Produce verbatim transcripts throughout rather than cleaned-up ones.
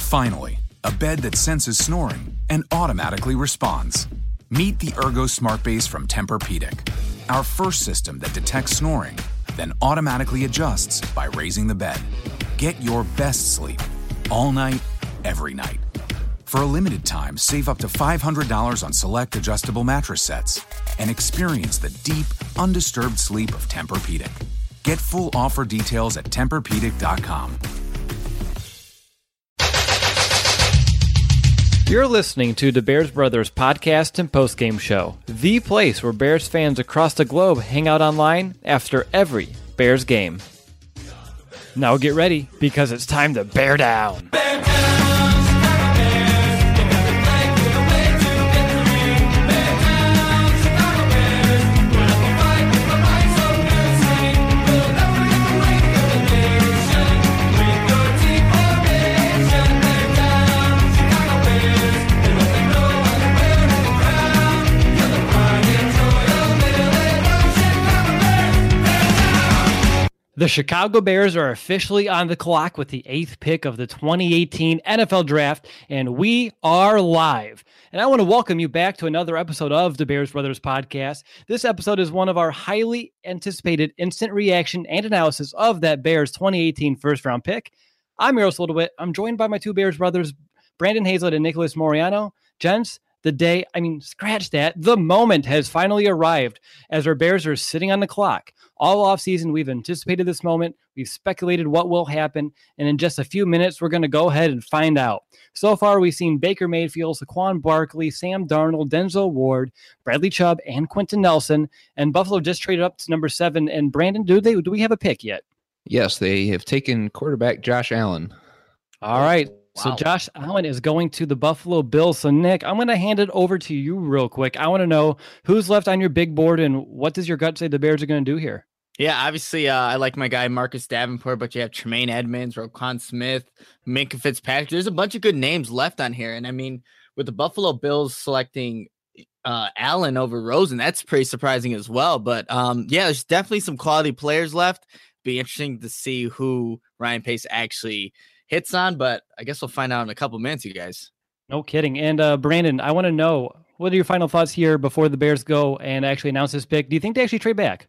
Finally, a bed that senses snoring and automatically responds. Meet the Ergo Smart Base from Tempur-Pedic, our first system that detects snoring, then automatically adjusts by raising the bed. Get your best sleep all night, every night. For a limited time, save up to five hundred dollars on select adjustable mattress sets and experience the deep, undisturbed sleep of Tempur-Pedic. Get full offer details at Tempur Pedic dot com. You're listening to the Bears Brothers podcast and postgame show, the place where Bears fans across the globe hang out online after every Bears game. Now get ready, because it's time to bear down. Bear down! The Chicago Bears are officially on the clock with the eighth pick of the twenty eighteen N F L Draft, and we are live. And I want to welcome you back to another episode of the Bears Brothers podcast. This episode is one of our highly anticipated instant reaction and analysis of that Bears twenty eighteen first-round pick. I'm Eros Littlewhit. I'm joined by my two Bears brothers, Brandon Hazlett and Nicholas Moriano. Gents, the day, I mean, scratch that, the moment has finally arrived as our Bears are sitting on the clock. All offseason, we've anticipated this moment. We've speculated what will happen. And in just a few minutes, we're going to go ahead and find out. So far, we've seen Baker Mayfield, Saquon Barkley, Sam Darnold, Denzel Ward, Bradley Chubb, and Quentin Nelson. And Buffalo just traded up to number seven. And Brandon, do they do we have a pick yet? Yes, they have taken quarterback Josh Allen. All right. Wow. So Josh Allen is going to the Buffalo Bills. So Nick, I'm going to hand it over to you real quick. I want to know who's left on your big board and what does your gut say the Bears are going to do here? Yeah, obviously, uh, I like my guy Marcus Davenport, but you have Tremaine Edmonds, Roquan Smith, Minkah Fitzpatrick. There's a bunch of good names left on here. And I mean, with the Buffalo Bills selecting uh, Allen over Rosen, that's pretty surprising as well. But um, yeah, there's definitely some quality players left. Be interesting to see who Ryan Pace actually hits on, but I guess we'll find out in a couple minutes, you guys. No kidding. And uh, Brandon, I want to know, what are your final thoughts here before the Bears go and actually announce this pick? Do you think they actually trade back?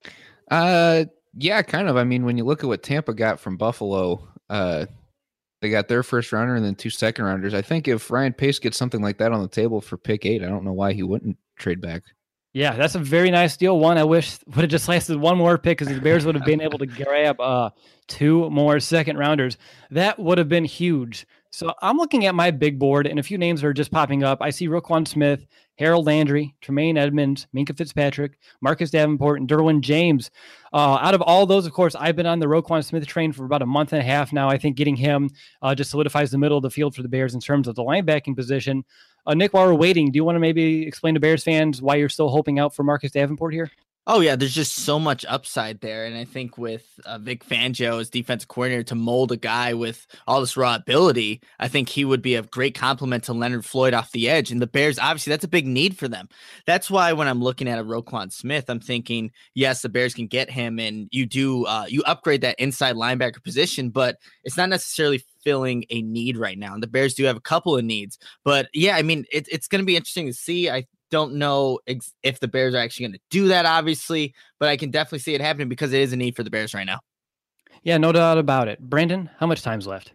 Uh, yeah, kind of. I mean, when you look at what Tampa got from Buffalo, uh, they got their first rounder and then two second rounders. I think if Ryan Pace gets something like that on the table for pick eight, I don't know why he wouldn't trade back. Yeah, that's a very nice deal. One, I wish would have just lasted one more pick because the Bears would have been able to grab uh, two more second rounders. That would have been huge. So I'm looking at my big board, and a few names are just popping up. I see Roquan Smith, Harold Landry, Tremaine Edmonds, Minkah Fitzpatrick, Marcus Davenport, and Derwin James. Uh, out of all those, of course, I've been on the Roquan Smith train for about a month and a half now. I think getting him uh, just solidifies the middle of the field for the Bears in terms of the linebacking position. Uh, Nick, while we're waiting, do you want to maybe explain to Bears fans why you're still hoping out for Marcus Davenport here? Oh, yeah, there's just so much upside there. And I think with uh, Vic Fangio as defensive coordinator to mold a guy with all this raw ability, I think he would be a great compliment to Leonard Floyd off the edge. And the Bears, obviously, that's a big need for them. That's why when I'm looking at a Roquan Smith, I'm thinking, yes, the Bears can get him and you do, uh, you upgrade that inside linebacker position, but it's not necessarily filling a need right now. And the Bears do have a couple of needs. But yeah, I mean, it, it's going to be interesting to see. I don't know ex- if the Bears are actually going to do that, obviously, but I can definitely see it happening because it is a need for the Bears right now. Yeah, no doubt about it. Brandon, how much time's left?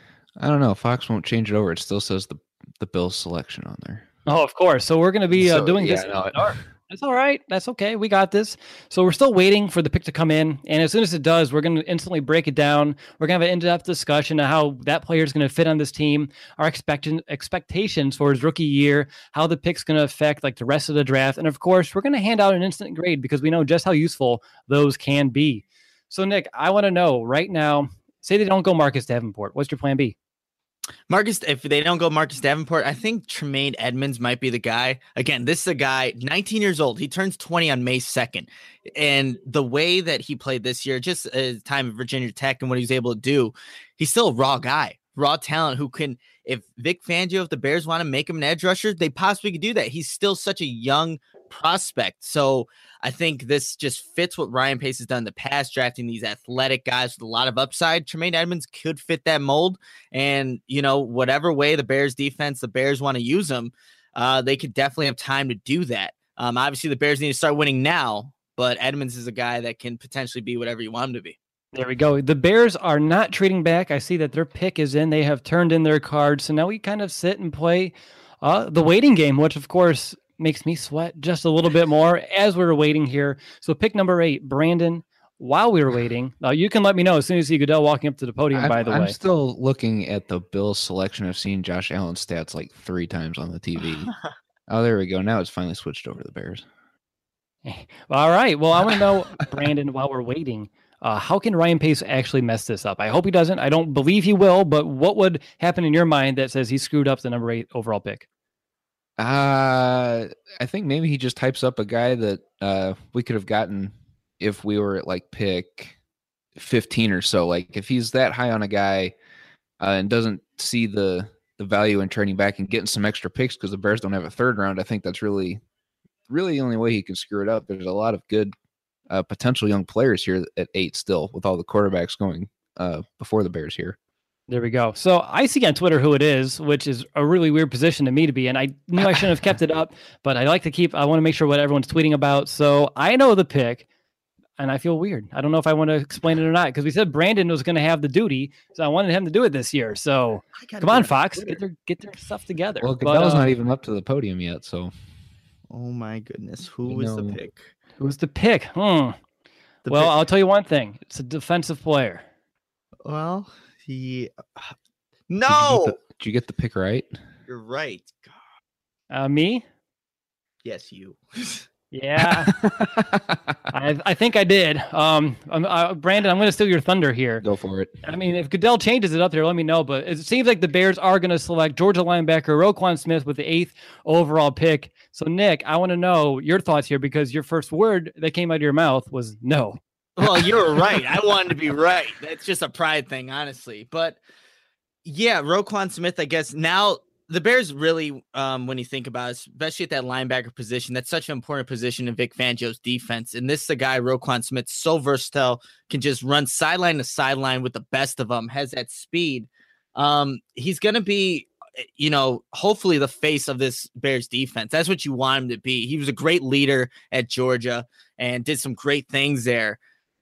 I don't know. Fox won't change it over. It still says the the Bills selection on there. Oh, of course. So we're going to be uh, So, doing yeah, this. no, it- That's all right. That's okay. We got this. So we're still waiting for the pick to come in. And as soon as it does, we're going to instantly break it down. We're going to have an in-depth discussion of how that player is going to fit on this team, our expect- expectations for his rookie year, how the pick's going to affect like the rest of the draft. And of course, we're going to hand out an instant grade because we know just how useful those can be. So Nick, I want to know right now, say they don't go Marcus Davenport. What's your plan B? Marcus, if they don't go Marcus Davenport, I think Tremaine Edmonds might be the guy. Again, this is a guy, nineteen years old. He turns twenty on May second. And the way that he played this year, just at time of Virginia Tech and what he was able to do, he's still a raw guy, raw talent who can, if Vic Fangio, if the Bears want to make him an edge rusher, they possibly could do that. He's still such a young prospect. So I think this just fits what Ryan Pace has done in the past, drafting these athletic guys with a lot of upside. Tremaine Edmunds could fit that mold. And, you know, whatever way the Bears defense, the Bears want to use them, uh, they could definitely have time to do that. Um, obviously, the Bears need to start winning now, but Edmunds is a guy that can potentially be whatever you want him to be. There we go. The Bears are not trading back. I see that their pick is in. They have turned in their cards. So now we kind of sit and play uh, the waiting game, which, of course, makes me sweat just a little bit more as we're waiting here. So pick number eight, Brandon, while we were waiting. Now, you can let me know as soon as you see Goodell walking up to the podium, I'm, by the I'm way. I'm still looking at the Bills selection. I've seen Josh Allen's stats like three times on the T V. Oh, there we go. Now it's finally switched over to the Bears. All right. Well, I want to know, Brandon, while we're waiting, uh, how can Ryan Pace actually mess this up? I hope he doesn't. I don't believe he will, but what would happen in your mind that says he screwed up the number eight overall pick? Uh, I think maybe he just types up a guy that uh, we could have gotten if we were at like pick fifteen or so. Like if he's that high on a guy uh, and doesn't see the the value in trading back and getting some extra picks because the Bears don't have a third round, I think that's really, really the only way he can screw it up. There's a lot of good uh, potential young players here at eight still with all the quarterbacks going uh, before the Bears here. There we go. So I see on Twitter who it is, which is a really weird position to me to be in. I knew I shouldn't have kept it up, but I like to keep, I want to make sure what everyone's tweeting about. So I know the pick and I feel weird. I don't know if I want to explain it or not, because we said Brandon was going to have the duty. So I wanted him to do it this year. So come on, Fox, get their, get their stuff together. Well, Goodell's but, uh, not even up to the podium yet. So, oh my goodness. Who You was the know. pick? who's the pick? Hmm. The well, pick- I'll tell you one thing. It's a defensive player. well, he, Did you no, get the, did you get the pick right? you're right. God. Uh, me? Yes, you. Yeah, I, I think I did. Um, I'm, uh, Brandon, I'm going to steal your thunder here. Go for it. I mean, if Goodell changes it up there, let me know. But it seems like the Bears are going to select Georgia linebacker Roquan Smith with the eighth overall pick. So, Nick, I want to know your thoughts here, because your first word that came out of your mouth was no. Well, you're right. I wanted to be right. That's just a pride thing, honestly. But yeah, Roquan Smith, I guess now the Bears really, um, when you think about it, especially at that linebacker position, that's such an important position in Vic Fangio's defense. And this is a guy, Roquan Smith, so versatile, can just run sideline to sideline with the best of them, has that speed. Um, he's going to be, you know, hopefully the face of this Bears defense. That's what you want him to be. He was a great leader at Georgia and did some great things there.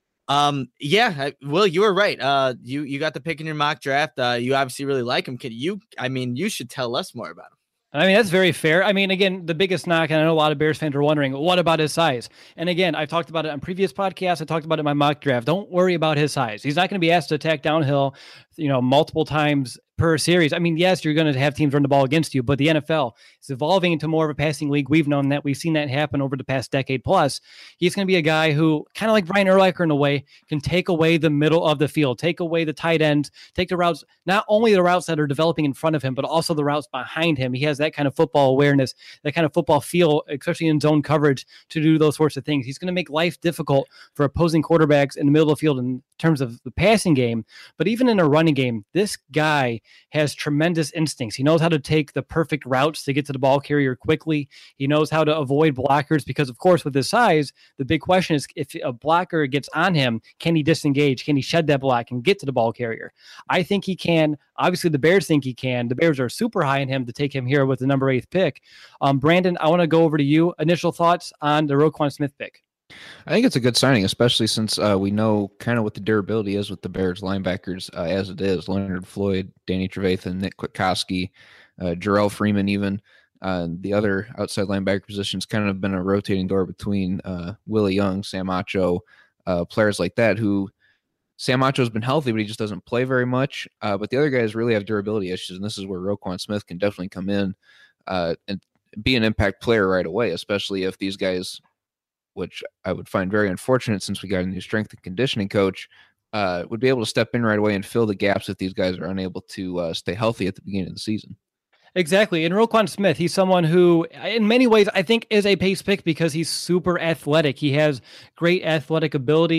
Um, yeah, I, Will, you were right. Uh, you, you got the pick in your mock draft. Uh, you obviously really like him. Could you, I mean, you should tell us more about him. I mean, that's very fair. I mean, again, the biggest knock, and I know a lot of Bears fans are wondering, what about his size? And again, I've talked about it on previous podcasts. I talked about it in my mock draft. Don't worry about his size. He's not going to be asked to attack downhill, you know, multiple times per series. I mean, yes, you're going to have teams run the ball against you, but the N F L is evolving into more of a passing league. We've known that. We've seen that happen over the past decade plus. He's going to be a guy who, kind of like Brian Urlacher in a way, can take away the middle of the field, take away the tight ends, take the routes, not only the routes that are developing in front of him, but also the routes behind him. He has that kind of football awareness, that kind of football feel, especially in zone coverage, to do those sorts of things. He's going to make life difficult for opposing quarterbacks in the middle of the field in terms of the passing game, but even in a running game, this guy has tremendous instincts. He knows how to take the perfect routes to get to the ball carrier quickly. He knows how to avoid blockers because, of course, with his size, the big question is if a blocker gets on him, can he disengage? Can he shed that block and get to the ball carrier? I think he can. Obviously, the Bears think he can. The Bears are super high in him to take him here with the number eighth pick. Um, Brandon, I want to go over to you. Initial thoughts on the Roquan Smith pick. I think it's a good signing, especially since uh, we know kind of what the durability is with the Bears linebackers uh, as it is. Leonard Floyd, Danny Trevathan, Nick Kwiatkowski, uh, Jarrell Freeman even. Uh, the other outside linebacker positions kind of been a rotating door between uh, Willie Young, Sam Acho, uh, players like that who Sam Acho's been healthy, but he just doesn't play very much. Uh, but the other guys really have durability issues, and this is where Roquan Smith can definitely come in uh, and be an impact player right away, especially if these guys – which I would find very unfortunate since we got a new strength and conditioning coach, uh, would be able to step in right away and fill the gaps if these guys are unable to uh, stay healthy at the beginning of the season. Exactly. And Roquan Smith, he's someone who, in many ways, I think is a pace pick because he's super athletic. He has great athletic ability.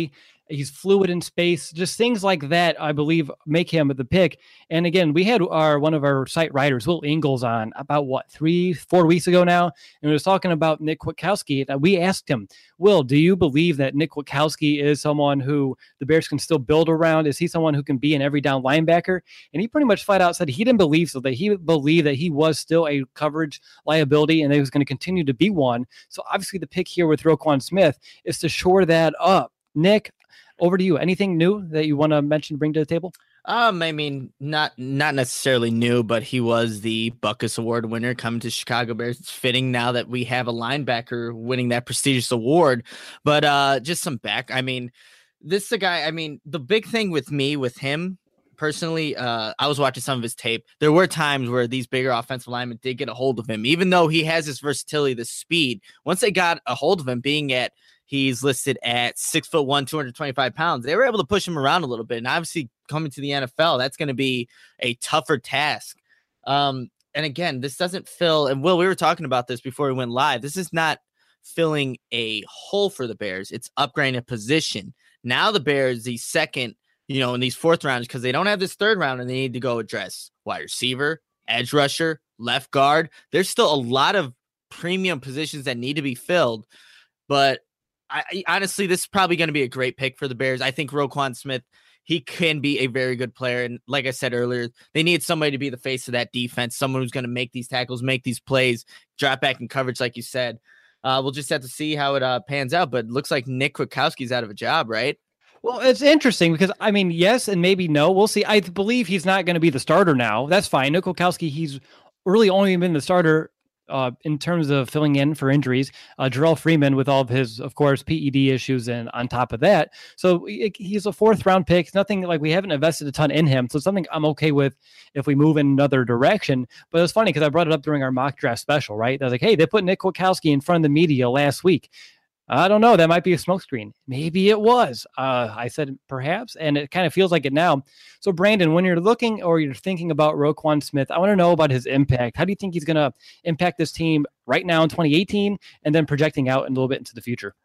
He's fluid in space, just things like that, I believe, make him the pick. And again, we had our one of our site writers, Will Ingalls, on about what, three, four weeks ago now. And we was talking about Nick Kwiatkowski. And we asked him, Will, do you believe that Nick Kwiatkowski is someone who the Bears can still build around? Is he someone who can be an every down linebacker? And he pretty much flat out said he didn't believe so, that he believed that he was still a coverage liability and that he was going to continue to be one. So obviously the pick here with Roquan Smith is to shore that up. Nick, over to you. Anything new that you want to mention, bring to the table? Um, I mean, not not necessarily new, but he was the Butkus Award winner coming to Chicago Bears. It's fitting now that we have a linebacker winning that prestigious award. But uh, just some back. I mean, this is a guy. I mean, the big thing with me, with him personally, uh, I was watching some of his tape. There were times where these bigger offensive linemen did get a hold of him, even though he has this versatility, this speed. Once they got a hold of him, being at he's listed at six foot one, two hundred twenty-five pounds. They were able to push him around a little bit. And obviously coming to the N F L, that's going to be a tougher task. Um, and again, this doesn't fill, and Will, we were talking about this before we went live. This is not filling a hole for the Bears. It's upgrading a position. Now the Bears, the second, you know, in these fourth rounds, because they don't have this third round and they need to go address wide receiver, edge rusher, left guard. There's still a lot of premium positions that need to be filled. But I, honestly, this is probably going to be a great pick for the Bears. I think Roquan Smith, he can be a very good player. And like I said earlier, they need somebody to be the face of that defense, someone who's going to make these tackles, make these plays, drop back in coverage, like you said. Uh, we'll just have to see how it uh, pans out. But it looks like Nick Kwiatkowski's out of a job, right? Well, it's interesting because, I mean, yes and maybe no. We'll see. I believe he's not going to be the starter now. That's fine. Nick Kwiatkowski, he's really only been the starter Uh, in terms of filling in for injuries. uh, Jarrell Freeman with all of his, of course, P E D issues, and on top of that, so it, he's a fourth round pick. It's nothing like we haven't invested a ton in him, so it's something I'm okay with if we move in another direction. But it's funny because I brought it up during our mock draft special, right? I was like, hey, they put Nick Kwiatkowski in front of the media last week. I don't know. That might be a smokescreen. Maybe it was. Uh, I said perhaps, and it kind of feels like it now. So, Brandon, when you're looking or you're thinking about Roquan Smith, I want to know about his impact. How do you think he's going to impact this team right now in twenty eighteen and then projecting out a little bit into the future?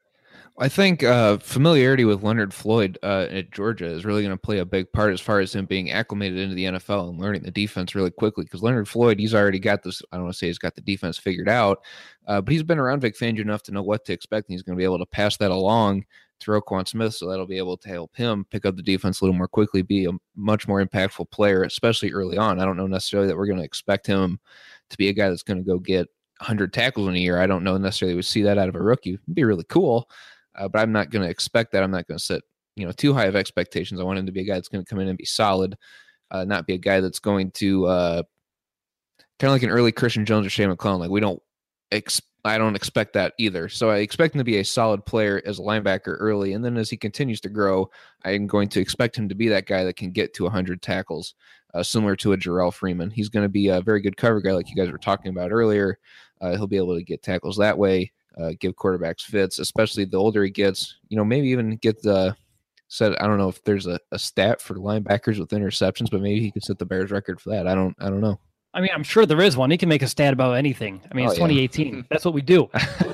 I think uh, familiarity with Leonard Floyd uh, at Georgia is really going to play a big part as far as him being acclimated into the N F L and learning the defense really quickly. Because Leonard Floyd, he's already got this, I don't want to say he's got the defense figured out, uh, but he's been around Vic Fangio enough to know what to expect, and he's going to be able to pass that along to Roquan Smith, so that'll be able to help him pick up the defense a little more quickly, be a much more impactful player, especially early on. I don't know necessarily that we're going to expect him to be a guy that's going to go get one hundred tackles in a year. I don't know necessarily we see that out of a rookie. It'd be really cool. Uh, but I'm not going to expect that. I'm not going to set, you know, too high of expectations. I want him to be a guy that's going to come in and be solid, uh, not be a guy that's going to uh, kind of like an early Christian Jones or Shea McClellan. Like we don't, ex- I don't expect that either. So I expect him to be a solid player as a linebacker early, and then as he continues to grow, I'm going to expect him to be that guy that can get to one hundred tackles, uh, similar to a Jarrell Freeman. He's going to be a very good cover guy, like you guys were talking about earlier. Uh, he'll be able to get tackles that way. Uh, give quarterbacks fits, especially the older he gets, you know, maybe even get the set. I don't know if there's a, a stat for linebackers with interceptions, but maybe he could set the Bears record for that. I don't, I don't know. I mean, I'm sure there is one. He can make a stat about anything. I mean, it's oh, yeah. twenty eighteen. That's what we do.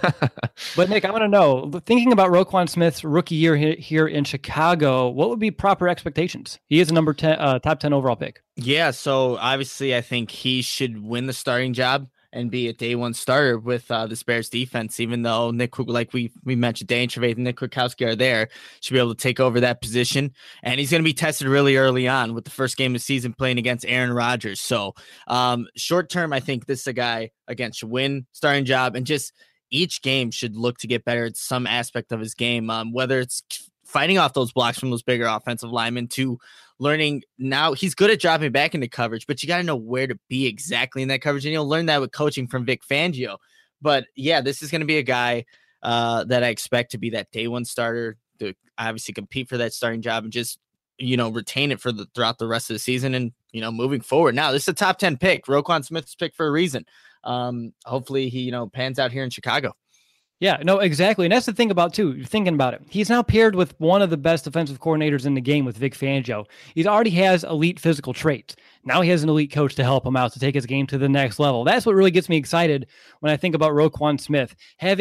But Nick, I want to know, thinking about Roquan Smith's rookie year here in Chicago, what would be proper expectations? He is a number ten, uh, top ten overall pick. Yeah. So obviously I think he should win the starting job and be a day one starter with uh, this Bears defense, even though Nick, like we we mentioned, Dane Trevathan and Nick Kwiatkowski are there, should be able to take over that position. And he's going to be tested really early on with the first game of the season playing against Aaron Rodgers. So um, short term, I think this is a guy, again, should win starting job, and just each game should look to get better at some aspect of his game, um, whether it's fighting off those blocks from those bigger offensive linemen to learning. Now he's good at dropping back into coverage, but you got to know where to be exactly in that coverage. And you'll learn that with coaching from Vic Fangio. But yeah, this is going to be a guy uh, that I expect to be that day one starter, to obviously compete for that starting job and just, you know, retain it for the throughout the rest of the season. And, you know, moving forward, now this is a top ten pick. Roquan Smith's pick for a reason. Um, hopefully he, you know, pans out here in Chicago. Yeah, no, exactly. And that's the thing about, too, you're thinking about it. He's now paired with one of the best defensive coordinators in the game with Vic Fangio. He already has elite physical traits. Now he has an elite coach to help him out, to take his game to the next level. That's what really gets me excited when I think about Roquan Smith. Having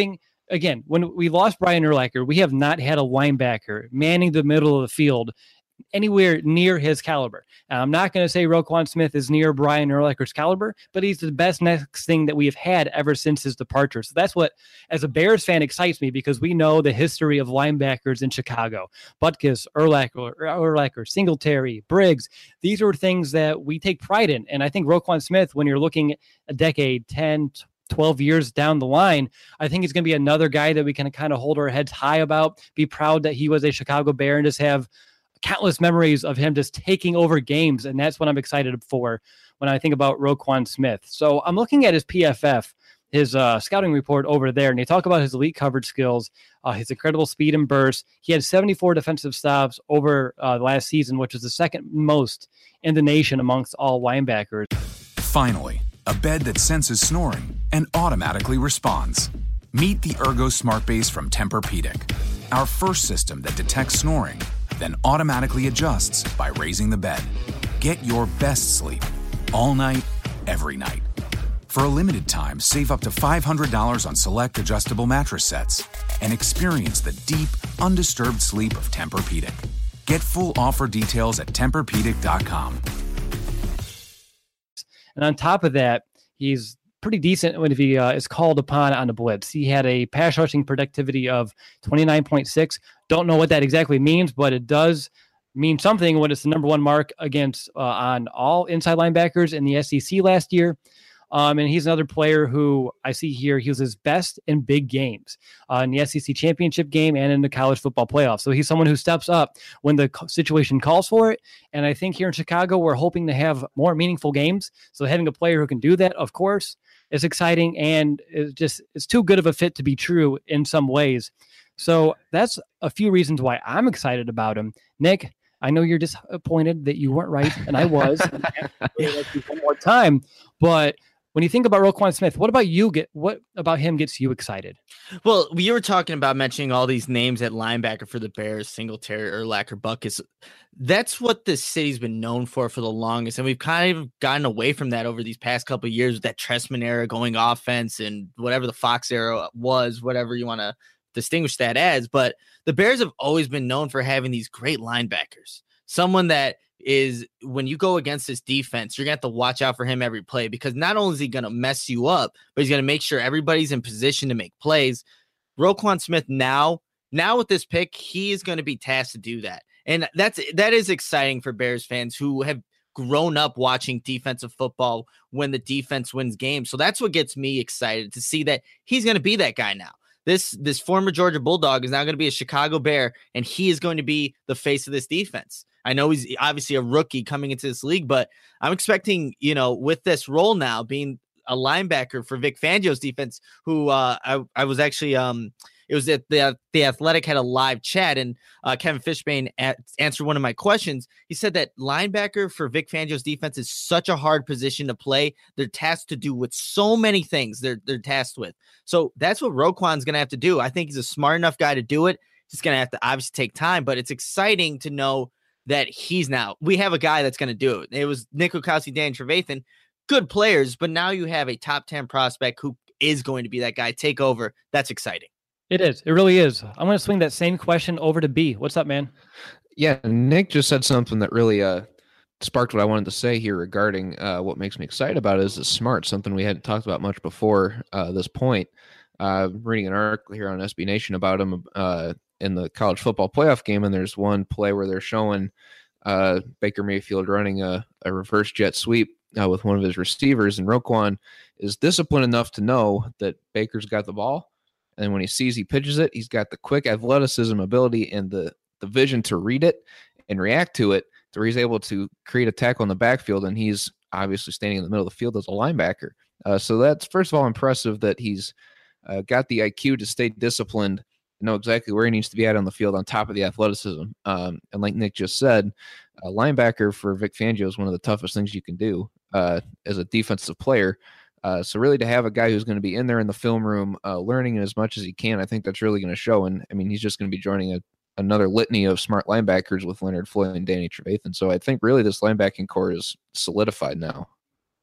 again, when we lost Brian Urlacher, we have not had a linebacker manning the middle of the field anywhere near his caliber. And I'm not going to say Roquan Smith is near Brian Urlacher's caliber, but he's the best next thing that we have had ever since his departure. So that's what, as a Bears fan, excites me, because we know the history of linebackers in Chicago. Butkus, Urlacher, Urlacher, Singletary, Briggs. These are things that we take pride in. And I think Roquan Smith, when you're looking a decade, ten, twelve years down the line, I think he's going to be another guy that we can kind of hold our heads high about, be proud that he was a Chicago Bear, and just have countless memories of him just taking over games. And that's what I'm excited for when I think about Roquan Smith. So I'm looking at his P F F, his uh, scouting report over there, and they talk about his elite coverage skills, uh, his incredible speed and burst. He had seventy-four defensive stops over uh, last season, which is the second most in the nation amongst all linebackers. Finally, a bed that senses snoring and automatically responds. Meet the Ergo Smart Base from Tempur-Pedic, our first system that detects snoring, then automatically adjusts by raising the bed. Get your best sleep all night, every night. For a limited time, save up to five hundred dollars on select adjustable mattress sets and experience the deep, undisturbed sleep of Tempur-Pedic. Get full offer details at Tempur Pedic dot com. And on top of that, he's pretty decent when he uh, is called upon on the blitz. He had a pass rushing productivity of twenty-nine point six. Don't know what that exactly means, but it does mean something when it's the number one mark against uh, on all inside linebackers in the S E C last year. Um, and he's another player who I see here. He was his best in big games uh, in the S E C championship game and in the college football playoffs. So he's someone who steps up when the situation calls for it. And I think here in Chicago, we're hoping to have more meaningful games. So having a player who can do that, of course, is exciting, and it's just, it's too good of a fit to be true in some ways. So that's a few reasons why I'm excited about him. Nick, I know you're disappointed that you weren't right, and I was. And I have to really like you one more time, but when you think about Roquan Smith, what about you? Get what about him gets you excited? Well, we were talking about mentioning all these names at linebacker for the Bears: Singletary, Urlacher, Butkus. That's what this city's been known for for the longest, and we've kind of gotten away from that over these past couple of years with that Trestman era going offense and whatever the Fox era was, whatever you want to distinguish that as. But the Bears have always been known for having these great linebackers. Someone that is, when you go against this defense, you're going to have to watch out for him every play, because not only is he going to mess you up, but he's going to make sure everybody's in position to make plays. Roquan Smith now, now with this pick, he is going to be tasked to do that. And that's, that is exciting for Bears fans who have grown up watching defensive football when the defense wins games. So that's what gets me excited to see that he's going to be that guy now. This, this former Georgia Bulldog is now going to be a Chicago Bear, and he is going to be the face of this defense. I know he's obviously a rookie coming into this league, but I'm expecting, you know, with this role now being a linebacker for Vic Fangio's defense, who uh, I, I was actually, um, it was at the, the Athletic had a live chat, and uh, Kevin Fishbane at, answered one of my questions. He said that linebacker for Vic Fangio's defense is such a hard position to play. They're tasked to do with so many things they're, they're tasked with. So that's what Roquan's going to have to do. I think he's a smart enough guy to do it. He's going to have to obviously take time, but it's exciting to know that he's now, we have a guy that's going to do it. It was Nick Kwiatkowski, Danny Trevathan, good players, but now you have a top ten prospect who is going to be that guy, take over. That's exciting. It is. It really is. I'm going to swing that same question over to B. What's up, man? Yeah, Nick just said something that really uh, sparked what I wanted to say here regarding uh, what makes me excited about it is the smart, something we hadn't talked about much before uh, this point. Uh, reading an article here on S B Nation about him uh, in the college football playoff game, and there's one play where they're showing uh, Baker Mayfield running a, a reverse jet sweep uh, with one of his receivers, and Roquan is disciplined enough to know that Baker's got the ball, and when he sees he pitches it, he's got the quick athleticism ability and the, the vision to read it and react to it, to where he's able to create a tackle in the backfield, and he's obviously standing in the middle of the field as a linebacker. Uh, so that's, first of all, impressive that he's uh, got the I Q to stay disciplined, know exactly where he needs to be at on the field on top of the athleticism. Um, and like Nick just said, a linebacker for Vic Fangio is one of the toughest things you can do uh, as a defensive player. Uh, so really to have a guy who's going to be in there in the film room, uh, learning as much as he can, I think that's really going to show. And I mean, he's just going to be joining a, another litany of smart linebackers with Leonard Floyd and Danny Trevathan. So I think really this linebacking core is solidified now.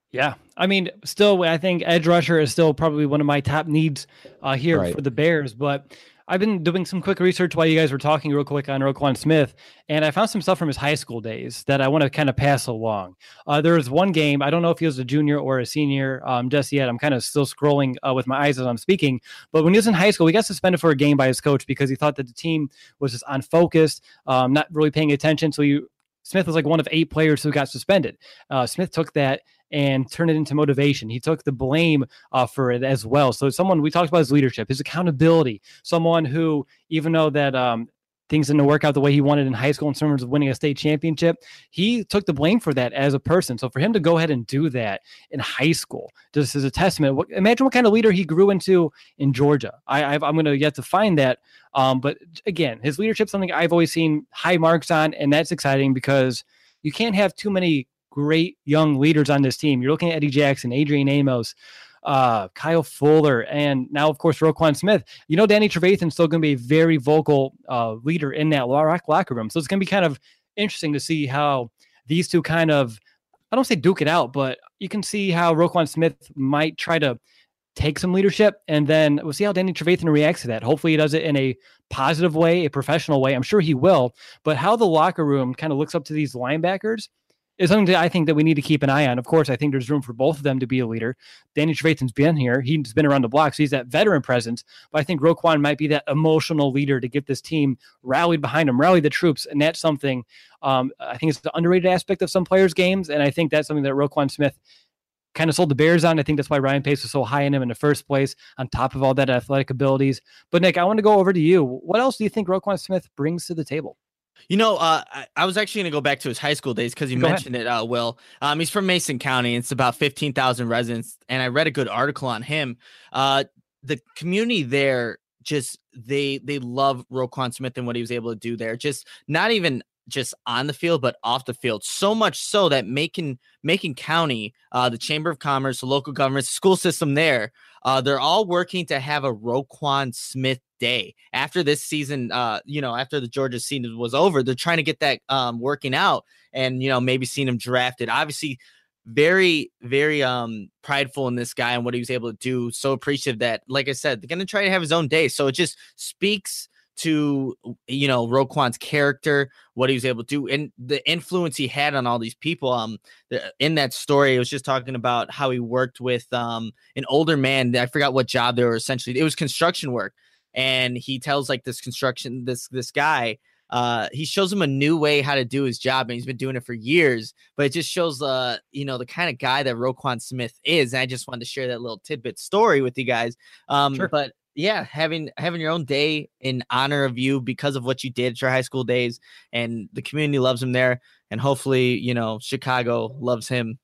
Yeah. I mean, still, I think edge rusher is still probably one of my top needs uh, here Right. for the Bears. But I've been doing some quick research while you guys were talking real quick on Roquan Smith, and I found some stuff from his high school days that I want to kind of pass along. Uh, there was one game, I don't know if he was a junior or a senior um, just yet. I'm kind of still scrolling uh, with my eyes as I'm speaking. But when he was in high school, he got suspended for a game by his coach because he thought that the team was just unfocused, um, not really paying attention. So you, Smith was like one of eight players who got suspended. Uh, Smith took that and turn it into motivation. He took the blame uh, for it as well. So someone, we talked about his leadership, his accountability, someone who, even though that um, things didn't work out the way he wanted in high school in terms of winning a state championship, he took the blame for that as a person. So for him to go ahead and do that in high school, just as a testament, what, imagine what kind of leader he grew into in Georgia. I, I've, I'm going to yet to find that. Um, but again, his leadership, something I've always seen high marks on, and that's exciting because you can't have too many great young leaders on this team. You're looking at Eddie Jackson, Adrian Amos, uh, Kyle Fuller, and now, of course, Roquan Smith. You know, Danny Trevathan's still going to be a very vocal uh, leader in that locker room. So it's going to be kind of interesting to see how these two kind of, I don't say duke it out, but you can see how Roquan Smith might try to take some leadership, and then we'll see how Danny Trevathan reacts to that. Hopefully he does it in a positive way, a professional way. I'm sure he will, but how the locker room kind of looks up to these linebackers is something that I think that we need to keep an eye on. Of course, I think there's room for both of them to be a leader. Danny Trevathan's been here. He's been around the block, so he's that veteran presence. But I think Roquan might be that emotional leader to get this team rallied behind him, rally the troops. And that's something um, I think it's the underrated aspect of some players' games. And I think that's something that Roquan Smith kind of sold the Bears on. I think that's why Ryan Pace was so high in him in the first place, on top of all that athletic abilities. But Nick, I want to go over to you. What else do you think Roquan Smith brings to the table? You know, uh, I, I was actually going to go back to his high school days because you Go mentioned ahead. it, uh, Will. Um, he's from Mason County. It's about fifteen thousand residents, and I read a good article on him. Uh, the community there, just they they love Roquan Smith and what he was able to do there. Just not even just on the field, but off the field. So much so that Macon, Macon County, uh, the Chamber of Commerce, the local government, school system there, uh, they're all working to have a Roquan Smith day after this season. Uh, you know, after the Georgia season was over, they're trying to get that um, working out, and you know, maybe seeing him drafted. Obviously, very, very um prideful in this guy and what he was able to do. So appreciative that, like I said, they're going to try to have his own day. So it just speaks to, you know, Roquan's character, what he was able to do, and the influence he had on all these people. Um, the, in that story, it was just talking about how he worked with um an older man. I forgot what job they were essentially. It was construction work, and he tells like this construction this this guy. Uh, he shows him a new way how to do his job, and he's been doing it for years. But it just shows, uh, you know, the kind of guy that Roquan Smith is. And I just wanted to share that little tidbit story with you guys. Um, sure. But yeah, having having your own day in honor of you because of what you did at your high school days, and the community loves him there, and hopefully, you know, Chicago loves him.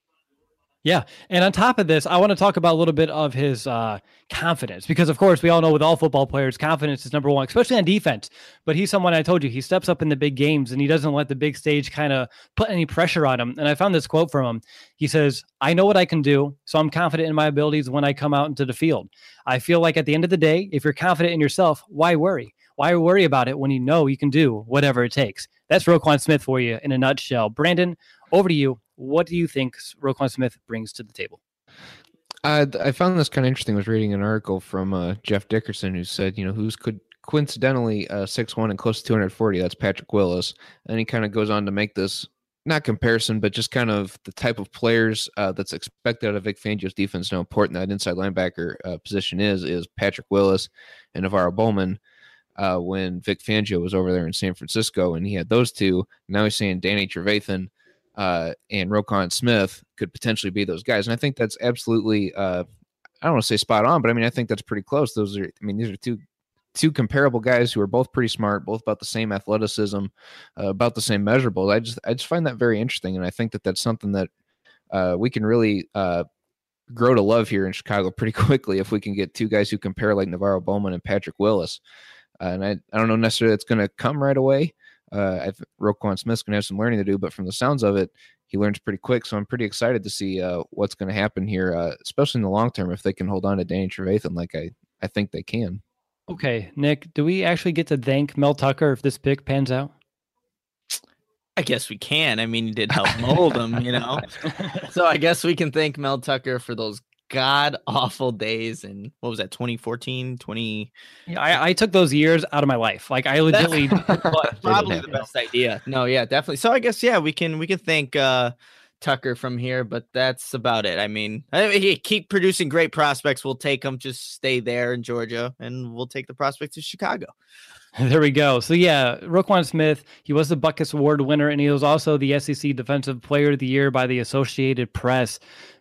Yeah. And on top of this, I want to talk about a little bit of his uh, confidence, because, of course, we all know with all football players, confidence is number one, especially on defense. But he's someone, I told you, he steps up in the big games and he doesn't let the big stage kind of put any pressure on him. And I found this quote from him. He says, "I know what I can do, so I'm confident in my abilities when I come out into the field. I feel like at the end of the day, if you're confident in yourself, why worry? Why worry about it when you know you can do whatever it takes?" That's Roquan Smith for you in a nutshell. Brandon, over to you. What do you think Roquan Smith brings to the table? Uh, I found this kind of interesting. I was reading an article from uh, Jeff Dickerson, who said, you know, who's could coincidentally uh, six one and close to two hundred forty. That's Patrick Willis. And he kind of goes on to make this, not comparison, but just kind of the type of players uh, that's expected out of Vic Fangio's defense, how important that inside linebacker uh, position is, is Patrick Willis and Navarro Bowman. Uh, when Vic Fangio was over there in San Francisco and he had those two, now he's saying Danny Trevathan uh, and Roquan Smith could potentially be those guys. And I think that's absolutely, uh, I don't want to say spot on, but I mean, I think that's pretty close. Those are, I mean, these are two, two comparable guys who are both pretty smart, both about the same athleticism, uh, about the same measurables. I just, I just find that very interesting. And I think that that's something that uh, we can really uh, grow to love here in Chicago pretty quickly if we can get two guys who compare like Navarro Bowman and Patrick Willis. Uh, and I, I don't know necessarily that's going to come right away. Uh, I think Roquan Smith's going to have some learning to do, but from the sounds of it, he learns pretty quick. So I'm pretty excited to see uh, what's going to happen here, uh, especially in the long term, if they can hold on to Danny Trevathan like I, I think they can. Okay, Nick, do we actually get to thank Mel Tucker if this pick pans out? I guess we can. I mean, he did help mold him, you know. So I guess we can thank Mel Tucker for those god awful days. And what was that, twenty fourteen, twenty? Yeah, I, I took those years out of my life. Like I legitimately probably the best idea. No, yeah, definitely. So I guess yeah, we can we can thank uh, Tucker from here, but that's about it. I mean, I mean, he keep producing great prospects. We'll take them. Just stay there in Georgia, and we'll take the prospects to Chicago. There we go. So yeah, Roquan Smith, he was the Butkus Award winner, and he was also the S E C Defensive Player of the Year by the Associated Press.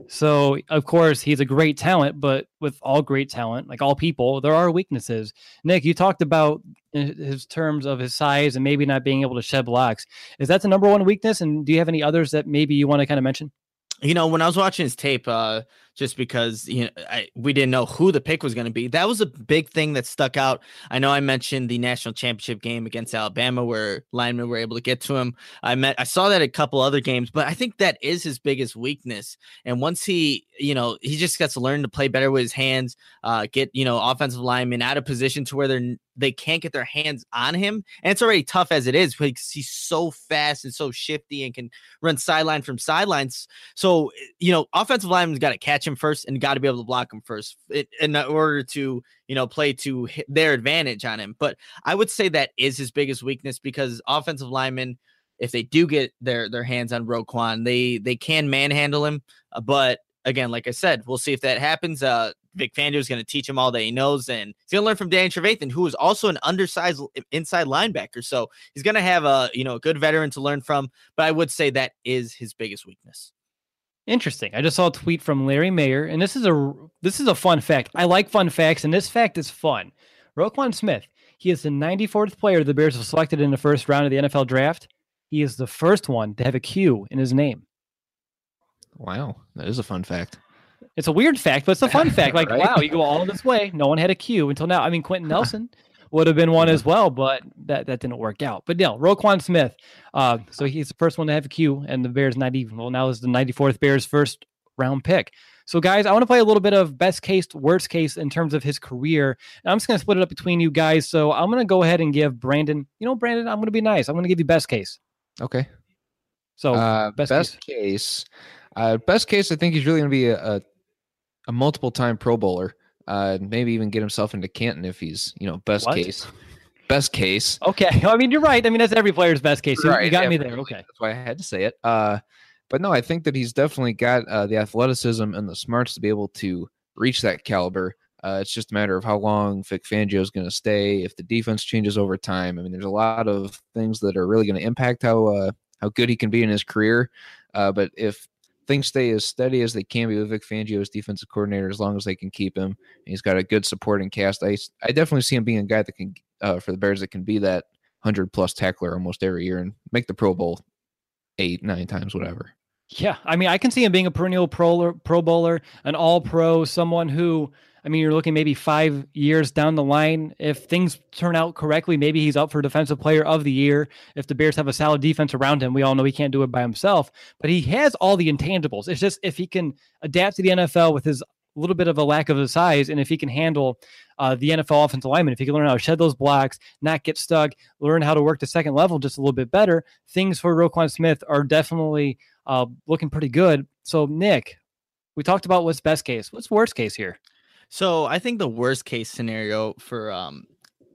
So of course he's a great talent, but with all great talent, like all people, there are weaknesses. Nick, you talked about his terms of his size and maybe not being able to shed blocks. Is that the number one weakness? And do you have any others that maybe you want to kind of mention? You know, when I was watching his tape, uh, just because you know I, we didn't know who the pick was going to be, that was a big thing that stuck out. I know I mentioned the national championship game against Alabama where linemen were able to get to him. I met, I saw that a couple other games, but I think that is his biggest weakness. And once he, you know, he just gets to learn to play better with his hands, uh, get you know offensive linemen out of position to where they're they can't get their hands on him. And it's already tough as it is because he's so fast and so shifty and can run sideline from sidelines. So, you know, offensive linemen's got to catch him first and got to be able to block him first in order to, you know, play to their advantage on him. But I would say that is his biggest weakness because offensive linemen, if they do get their, their hands on Roquan, they, they can manhandle him. Uh, but again, like I said, we'll see if that happens. Uh, Vic Fangio is going to teach him all that he knows, and he's going to learn from Danny Trevathan, who is also an undersized inside linebacker. So he's going to have a you know a good veteran to learn from. But I would say that is his biggest weakness. Interesting. I just saw a tweet from Larry Mayer, and this is a this is a fun fact. I like fun facts, and this fact is fun. Roquan Smith, he is the ninety-fourth player the Bears have selected in the first round of the N F L draft. He is the first one to have a Q in his name. Wow, that is a fun fact. It's a weird fact, but it's a fun fact. Like, Right? wow, you go all this way. No one had a Q until now. I mean, Quentin Nelson would have been one as well, but that, that didn't work out. But no, Roquan Smith. Uh, so he's the first one to have a Q, and the Bears not even. Well, now is the ninety-fourth Bears first round pick. So, guys, I want to play a little bit of best case, worst case in terms of his career. And I'm just going to split it up between you guys. So I'm going to go ahead and give Brandon, you know, Brandon, I'm going to be nice. I'm going to give you best case. Okay. So uh, best, best case. case, uh, best case, I think he's really going to be a, a, a multiple time Pro Bowler. Uh, maybe even get himself into Canton if he's, you know, best What? case. Best case. Okay. I mean, you're right. I mean, that's every player's best case. You, Right, you got yeah, me there. Okay. That's why I had to say it. Uh, but no, I think that he's definitely got uh, the athleticism and the smarts to be able to reach that caliber. Uh, it's just a matter of how long Vic Fangio is going to stay. If the defense changes over time, I mean, there's a lot of things that are really going to impact how uh, how good he can be in his career. Uh, but if things stay as steady as they can be with Vic Fangio as defensive coordinator, as long as they can keep him, and he's got a good supporting cast. I I definitely see him being a guy that can uh, for the Bears that can be that hundred plus tackler almost every year and make the Pro Bowl eight, nine times, whatever. Yeah, I mean, I can see him being a perennial pro, pro bowler, an all-pro, someone who, I mean, you're looking maybe five years down the line. If things turn out correctly, maybe he's up for Defensive Player of the Year. If the Bears have a solid defense around him, we all know he can't do it by himself, but he has all the intangibles. It's just if he can adapt to the N F L with his little bit of a lack of his size, and if he can handle uh, the N F L offensive lineman, if he can learn how to shed those blocks, not get stuck, learn how to work the second level just a little bit better, things for Roquan Smith are definitely uh, looking pretty good. So, Nick, we talked about what's best case. What's worst case here? So I think the worst case scenario for um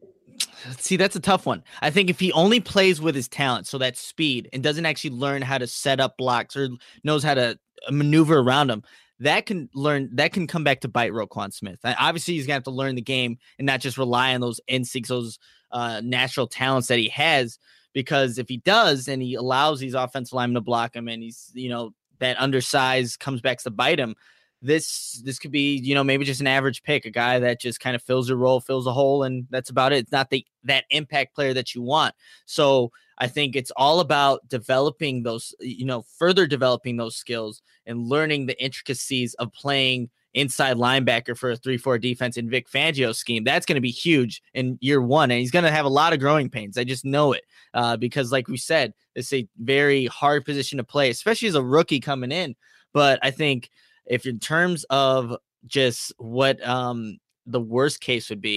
see, that's a tough one. I think if he only plays with his talent, so that speed, and doesn't actually learn how to set up blocks or knows how to maneuver around them, that can learn that can come back to bite Roquan Smith. Obviously, he's gonna have to learn the game and not just rely on those instincts, those uh, natural talents that he has. Because if he does, and he allows these offensive linemen to block him, and he's you know that undersized comes back to bite him, this this could be you know maybe just an average pick, a guy that just kind of fills a role, fills a hole, and that's about it. It's not the that impact player that you want. So I think it's all about developing those, you know, further developing those skills and learning the intricacies of playing inside linebacker for a three four defense in Vic Fangio's scheme. That's going to be huge in year one, and he's going to have a lot of growing pains. I just know it uh, because, like we said, it's a very hard position to play, especially as a rookie coming in. But I think if in terms of just what um, the worst case would be,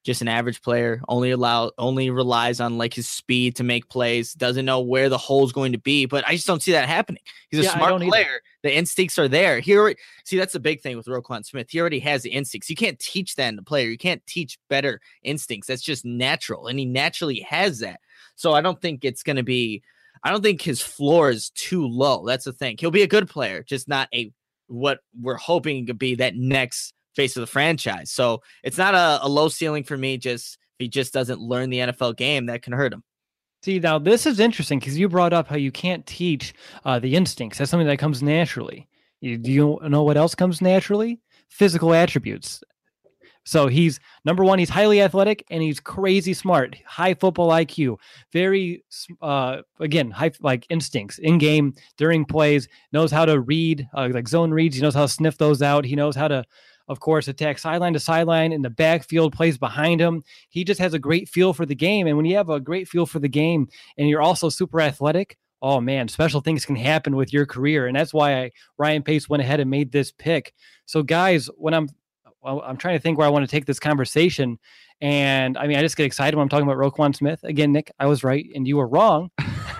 just an average player, only allow only relies on like his speed to make plays, doesn't know where the hole's going to be. But I just don't see that happening. He's a Yeah, I smart don't player. either. The instincts are there. He already, see, that's the big thing with Roquan Smith. He already has the instincts. You can't teach that in the player. You can't teach better instincts. That's just natural. And he naturally has that. So I don't think it's going to be, I don't think his floor is too low. That's the thing. He'll be a good player, just not a, what we're hoping to be that next face of the franchise. So it's not a, a low ceiling for me. Just, if he just doesn't learn the N F L game, that can hurt him. See, now this is interesting because you brought up how you can't teach uh, the instincts. That's something that comes naturally. You, do you know what else comes naturally? Physical attributes. So he's, number one, he's highly athletic and he's crazy smart, high football I Q, very, uh, again, high, like instincts in game, during plays, knows how to read, uh, like zone reads. He knows how to sniff those out. He knows how to, of course, attack sideline to sideline in the backfield, plays behind him. He just has a great feel for the game. And when you have a great feel for the game and you're also super athletic, oh man, special things can happen with your career. And that's why I, Ryan Pace went ahead and made this pick. So guys, when I'm, I'm trying to think where I want to take this conversation. And I mean, I just get excited when I'm talking about Roquan Smith. Again, Nick, I was right and you were wrong.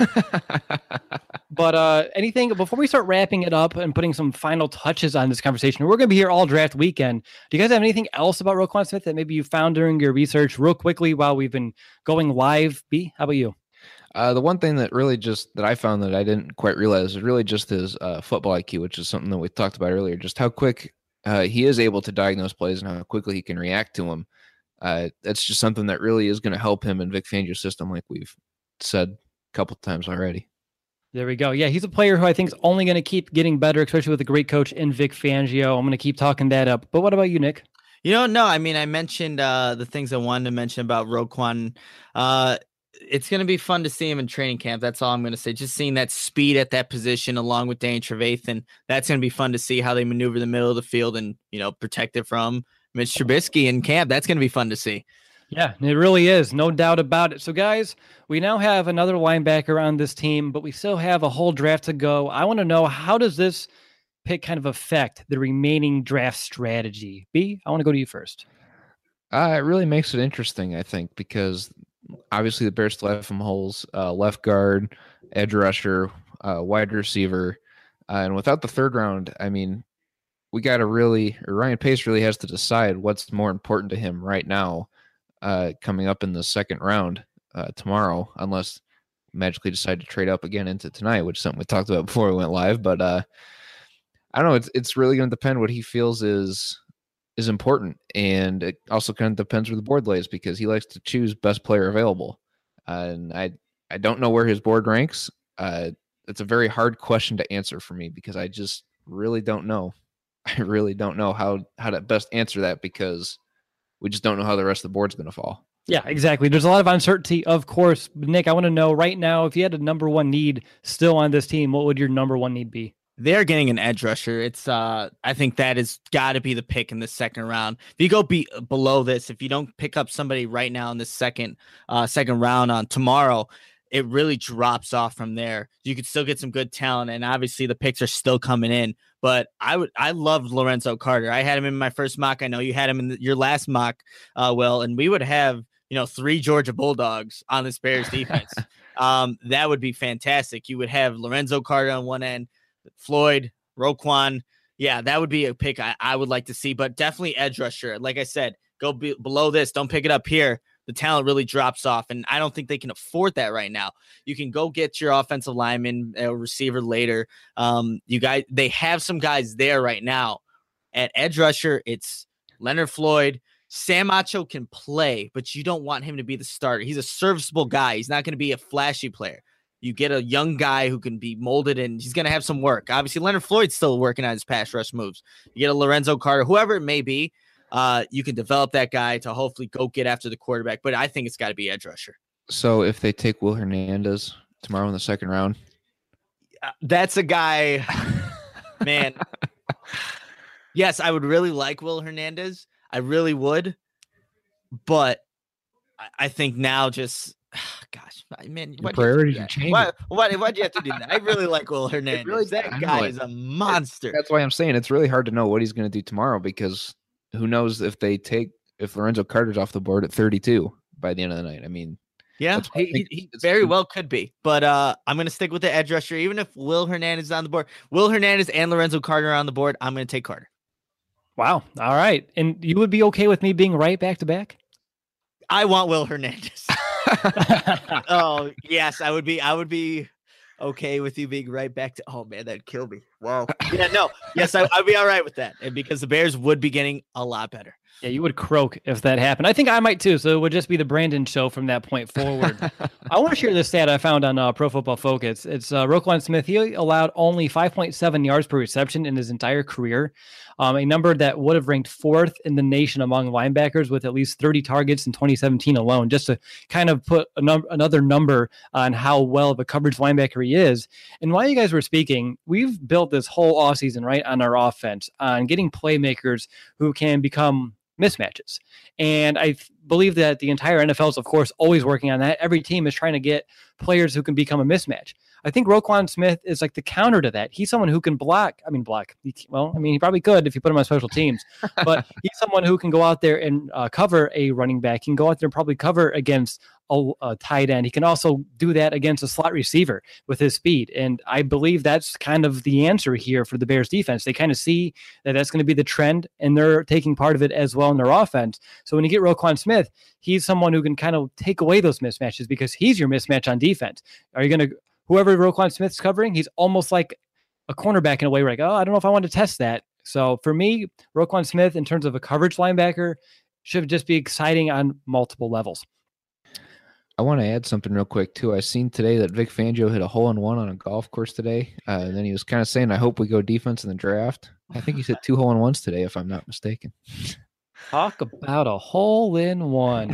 But uh, anything before we start wrapping it up and putting some final touches on this conversation, we're going to be here all draft weekend. Do you guys have anything else about Roquan Smith that maybe you found during your research real quickly while we've been going live? B, how about you? Uh, the one thing that really just that I found that I didn't quite realize is really just his uh, football I Q, which is something that we talked about earlier, just how quick uh, he is able to diagnose plays and how quickly he can react to them. Uh, that's just something that really is going to help him in Vic Fangio's system, like we've said a couple times already. There we go. Yeah, he's a player who I think is only going to keep getting better, especially with a great coach in Vic Fangio. I'm going to keep talking that up. But what about you, Nick? You know, no, I mean, I mentioned uh, the things I wanted to mention about Roquan. Uh, it's going to be fun to see him in training camp. That's all I'm going to say. Just seeing that speed at that position along with Danny Trevathan, that's going to be fun to see how they maneuver the middle of the field and, you know, protect it from Mitch Trubisky in camp. That's going to be fun to see. Yeah, it really is. No doubt about it. So, guys, we now have another linebacker on this team, but we still have a whole draft to go. I want to know, how does this pick kind of affect the remaining draft strategy? B, I want to go to you first. Uh, it really makes it interesting, I think, because obviously the Bears still have some holes, uh, left guard, edge rusher, uh, wide receiver. Uh, and without the third round, I mean, we got to really, or Ryan Pace really has to decide what's more important to him right now. Uh, coming up in the second round uh, tomorrow, unless magically decide to trade up again into tonight, which is something we talked about before we went live. But uh, I don't know. It's it's really going to depend what he feels is is important, and it also kind of depends where the board lays because he likes to choose best player available. Uh, and I I don't know where his board ranks. Uh, it's a very hard question to answer for me because I just really don't know. I really don't know how how to best answer that because we just don't know how the rest of the board's going to fall. Yeah, exactly. There's a lot of uncertainty, of course. Nick, I want to know right now, if you had a number one need still on this team, what would your number one need be? They're getting an edge rusher. It's, uh, I think that has got to be the pick in the second round. If you go be below this, if you don't pick up somebody right now in the second, uh, second round on tomorrow, it really drops off from there. You could still get some good talent, and obviously the picks are still coming in. But I would, I loved Lorenzo Carter. I had him in my first mock. I know you had him in the, your last mock, uh, Will, and we would have, you know, three Georgia Bulldogs on this Bears defense. um, that would be fantastic. You would have Lorenzo Carter on one end, Floyd, Roquan. Yeah, that would be a pick I, I would like to see. But definitely edge rusher. Like I said, go be, below this. Don't pick it up here. The talent really drops off, and I don't think they can afford that right now. You can go get your offensive lineman, a receiver later. Um, you guys, they have some guys there right now. At edge rusher, it's Leonard Floyd. Sam Acho can play, but you don't want him to be the starter. He's a serviceable guy. He's not going to be a flashy player. You get a young guy who can be molded, and he's going to have some work. Obviously, Leonard Floyd's still working on his pass rush moves. You get a Lorenzo Carter, whoever it may be. Uh, you can develop that guy to hopefully go get after the quarterback, but I think it's got to be edge rusher. So if they take Will Hernandez tomorrow in the second round, uh, that's a guy, man. Yes, I would really like Will Hernandez. I really would, but I, I think now just, gosh, man, your priorities are changing. Why, why, why'd you have to do that? I really like Will Hernandez. Really, that guy is a monster. That's why I'm saying it's really hard to know what he's going to do tomorrow because who knows if they take if Lorenzo Carter's off the board at thirty-two by the end of the night. I mean, yeah, he, he, he very well could be. But uh, I'm going to stick with the edge rusher. Even if Will Hernandez is on the board, Will Hernandez and Lorenzo Carter are on the board, I'm going to take Carter. Wow. All right. And you would be okay with me being right back to back? I want Will Hernandez. Oh, yes, I would be. I would be okay with you being right back to. Oh, man, that'd kill me. Wow. Yeah, no. Yes, I, I'd be all right with that. And because the Bears would be getting a lot better. Yeah, you would croak if that happened. I think I might too. So it would just be the Brandon show from that point forward. I want to share this stat I found on uh, Pro Football Focus. It's uh, Roquan Smith. He allowed only five point seven yards per reception in his entire career, um, a number that would have ranked fourth in the nation among linebackers with at least thirty targets in twenty seventeen alone, just to kind of put a num- another number on how well of a coverage linebacker he is. And while you guys were speaking, we've built this whole offseason, right, on our offense, on getting playmakers who can become mismatches. And I th- believe that the entire N F L is, of course, always working on that. Every team is trying to get players who can become a mismatch. I think Roquan Smith is like the counter to that. He's someone who can block. I mean, block. He, well, I mean, he probably could if you put him on special teams, but he's someone who can go out there and uh, cover a running back. He can go out there and probably cover against a, a tight end. He can also do that against a slot receiver with his speed. And I believe that's kind of the answer here for the Bears defense. They kind of see that that's going to be the trend, and they're taking part of it as well in their offense. So when you get Roquan Smith, he's someone who can kind of take away those mismatches because he's your mismatch on defense. Are you going to, whoever Roquan Smith's covering, he's almost like a cornerback in a way where like, oh, I don't know if I want to test that. So for me, Roquan Smith, in terms of a coverage linebacker, should just be exciting on multiple levels. I want to add something real quick, too. I seen today that Vic Fangio hit a hole-in-one on a golf course today. Uh, and then he was kind of saying, I hope we go defense in the draft. I think he's hit two hole-in-ones today, if I'm not mistaken. Talk about a hole-in-one.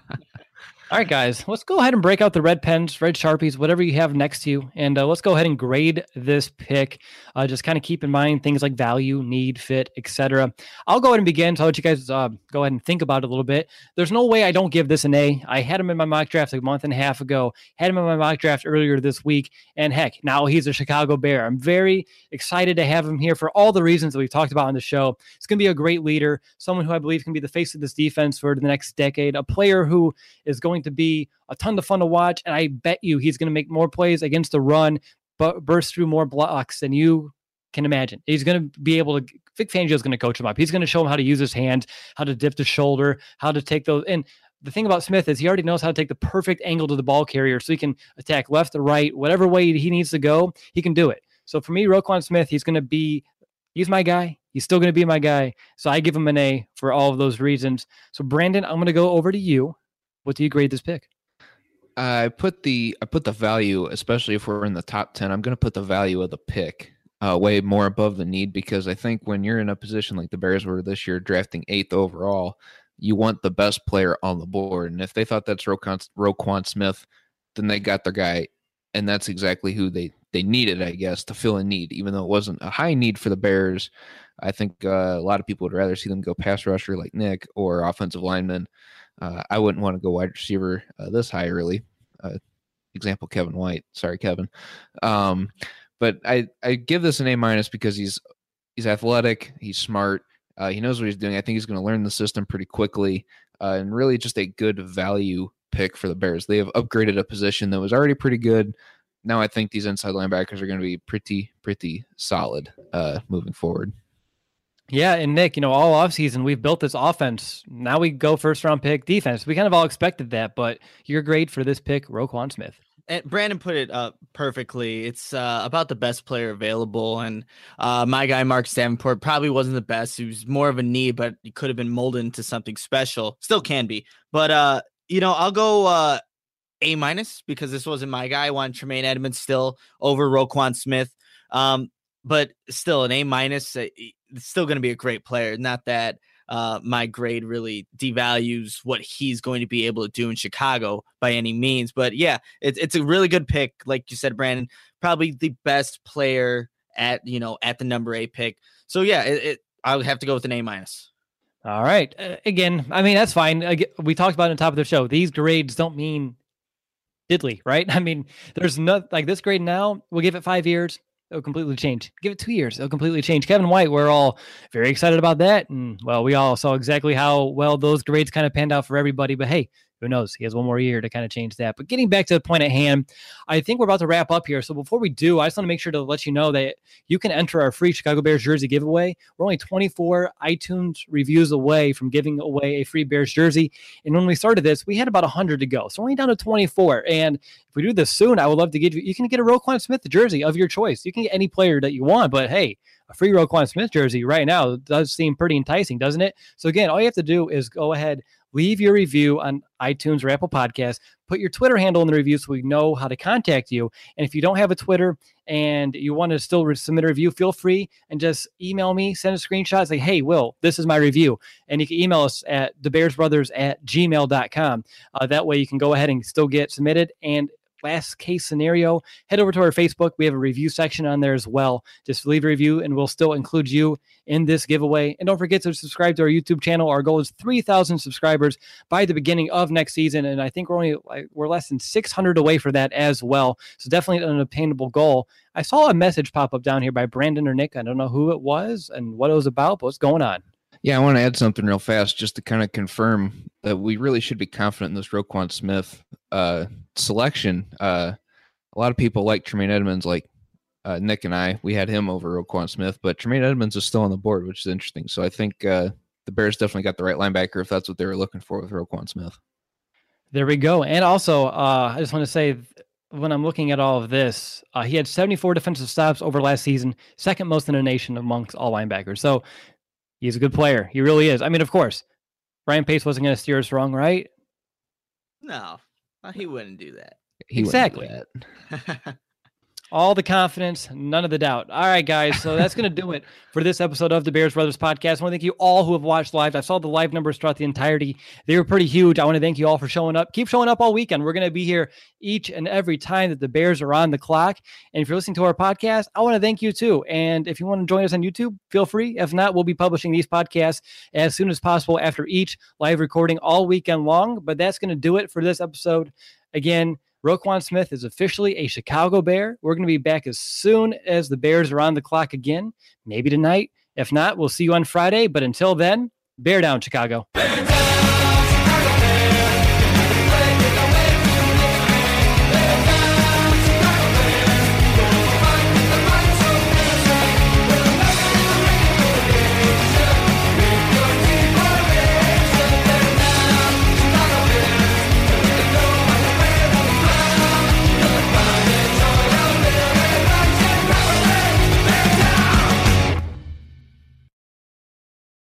All right, guys, let's go ahead and break out the red pens, red Sharpies, whatever you have next to you. And uh, let's go ahead and grade this pick. Uh, just kind of keep in mind things like value, need, fit, et cetera. I'll go ahead and begin. So I'll let you guys uh, go ahead and think about it a little bit. There's no way I don't give this an A. I had him in my mock draft like a month and a half ago, had him in my mock draft earlier this week. And heck, now he's a Chicago Bear. I'm very excited to have him here for all the reasons that we've talked about on the show. It's going to be a great leader, someone who I believe can be the face of this defense for the next decade, a player who is going to be a ton of fun to watch, and I bet you he's going to make more plays against the run, but burst through more blocks than you can imagine. He's going to be able to, Vic Fangio is going to coach him up. He's going to show him how to use his hands, how to dip the shoulder, how to take those. And the thing about Smith is he already knows how to take the perfect angle to the ball carrier so he can attack left or right, whatever way he needs to go, he can do it. So for me, Roquan Smith, he's going to be, he's my guy. He's still going to be my guy. So I give him an A for all of those reasons. So Brandon, I'm going to go over to you. What do you grade this pick? I put the I put the value, especially if we're in the top ten, I'm going to put the value of the pick uh, way more above the need, because I think when you're in a position like the Bears were this year, drafting eighth overall, you want the best player on the board. And if they thought that's Roquan, Roquan Smith, then they got their guy, and that's exactly who they, they needed, I guess, to fill a need, even though it wasn't a high need for the Bears. I think uh, a lot of people would rather see them go pass rusher like Nick or offensive lineman. Uh, I wouldn't want to go wide receiver uh, this high early. Uh, example, Kevin White. Sorry, Kevin. Um, but I, I give this an A minus because he's he's athletic, he's smart, uh, he knows what he's doing. I think he's going to learn the system pretty quickly, uh, and really just a good value pick for the Bears. They have upgraded a position that was already pretty good. Now I think these inside linebackers are going to be pretty pretty solid uh, moving forward. Yeah, and Nick, you know, all offseason, we've built this offense. Now we go first round pick defense. We kind of all expected that, but your grade for this pick, Roquan Smith. And Brandon put it uh, perfectly. It's uh, about the best player available. And uh, my guy, Mark Davenport, probably wasn't the best. He was more of a need, but he could have been molded into something special. Still can be. But, uh, you know, I'll go uh, A minus because this wasn't my guy. I want Tremaine Edmonds still over Roquan Smith. Um, but still an A minus. Uh, it's still going to be a great player. Not that uh, my grade really devalues what he's going to be able to do in Chicago by any means. But yeah, it's it's a really good pick. Like you said, Brandon, probably the best player at, you know, at the number eight pick. So yeah, it, it I would have to go with an A minus. All right. Uh, again, I mean, that's fine. I, we talked about it on top of the show. These grades don't mean diddly, right? I mean, there's no, like this grade now, we'll give it five years. it'll completely change. Give it two years, it'll completely change. Kevin White, we're all very excited about that. And, well, we all saw exactly how well those grades kind of panned out for everybody. But, hey, who knows? He has one more year to kind of change that. But getting back to the point at hand, I think we're about to wrap up here. So before we do, I just want to make sure to let you know that you can enter our free Chicago Bears jersey giveaway. We're only twenty-four iTunes reviews away from giving away a free Bears jersey. And when we started this, we had about one hundred to go. So we're only down to twenty-four. And if we do this soon, I would love to give you, you can get a Roquan Smith jersey of your choice. You can get any player that you want, but hey, a free Roquan Smith jersey right now does seem pretty enticing, doesn't it? So again, all you have to do is go ahead, leave your review on iTunes or Apple Podcasts. Put your Twitter handle in the review so we know how to contact you. And if you don't have a Twitter and you want to still re- submit a review, feel free and just email me, send a screenshot, say, hey, Will, this is my review. And you can email us at the bears brothers at gmail dot com. Uh, that way you can go ahead and still get submitted. And last case scenario, head over to our Facebook. We have a review section on there as well. Just leave a review and we'll still include you in this giveaway. And don't forget to subscribe to our YouTube channel. Our goal is three thousand subscribers by the beginning of next season. And I think we're only like, we're less than six hundred away for that as well. So definitely an attainable goal. I saw a message pop up down here by Brandon or Nick. I don't know who it was and what it was about, but what's going on? Yeah, I want to add something real fast just to kind of confirm that we really should be confident in this Roquan Smith uh, selection. Uh, a lot of people like Tremaine Edmonds, like uh, Nick and I. We had him over Roquan Smith, but Tremaine Edmonds is still on the board, which is interesting. So I think uh, the Bears definitely got the right linebacker if that's what they were looking for with Roquan Smith. There we go. And also, uh, I just want to say, when I'm looking at all of this, uh, he had seventy-four defensive stops over last season, second most in the nation amongst all linebackers. So he's a good player. He really is. I mean, of course, Ryan Pace wasn't going to steer us wrong, right? No, he wouldn't do that. He exactly. Do that. All the confidence, none of the doubt. All right, guys. So that's going to do it for this episode of the Bears Brothers Podcast. I want to thank you all who have watched live. I saw the live numbers throughout the entirety. They were pretty huge. I want to thank you all for showing up. Keep showing up all weekend. We're going to be here each and every time that the Bears are on the clock. And if you're listening to our podcast, I want to thank you too. And if you want to join us on YouTube, feel free. If not, we'll be publishing these podcasts as soon as possible after each live recording all weekend long. But that's going to do it for this episode. Again, Roquan Smith is officially a Chicago Bear. We're going to be back as soon as the Bears are on the clock again, maybe tonight. If not, we'll see you on Friday. But until then, bear down, Chicago.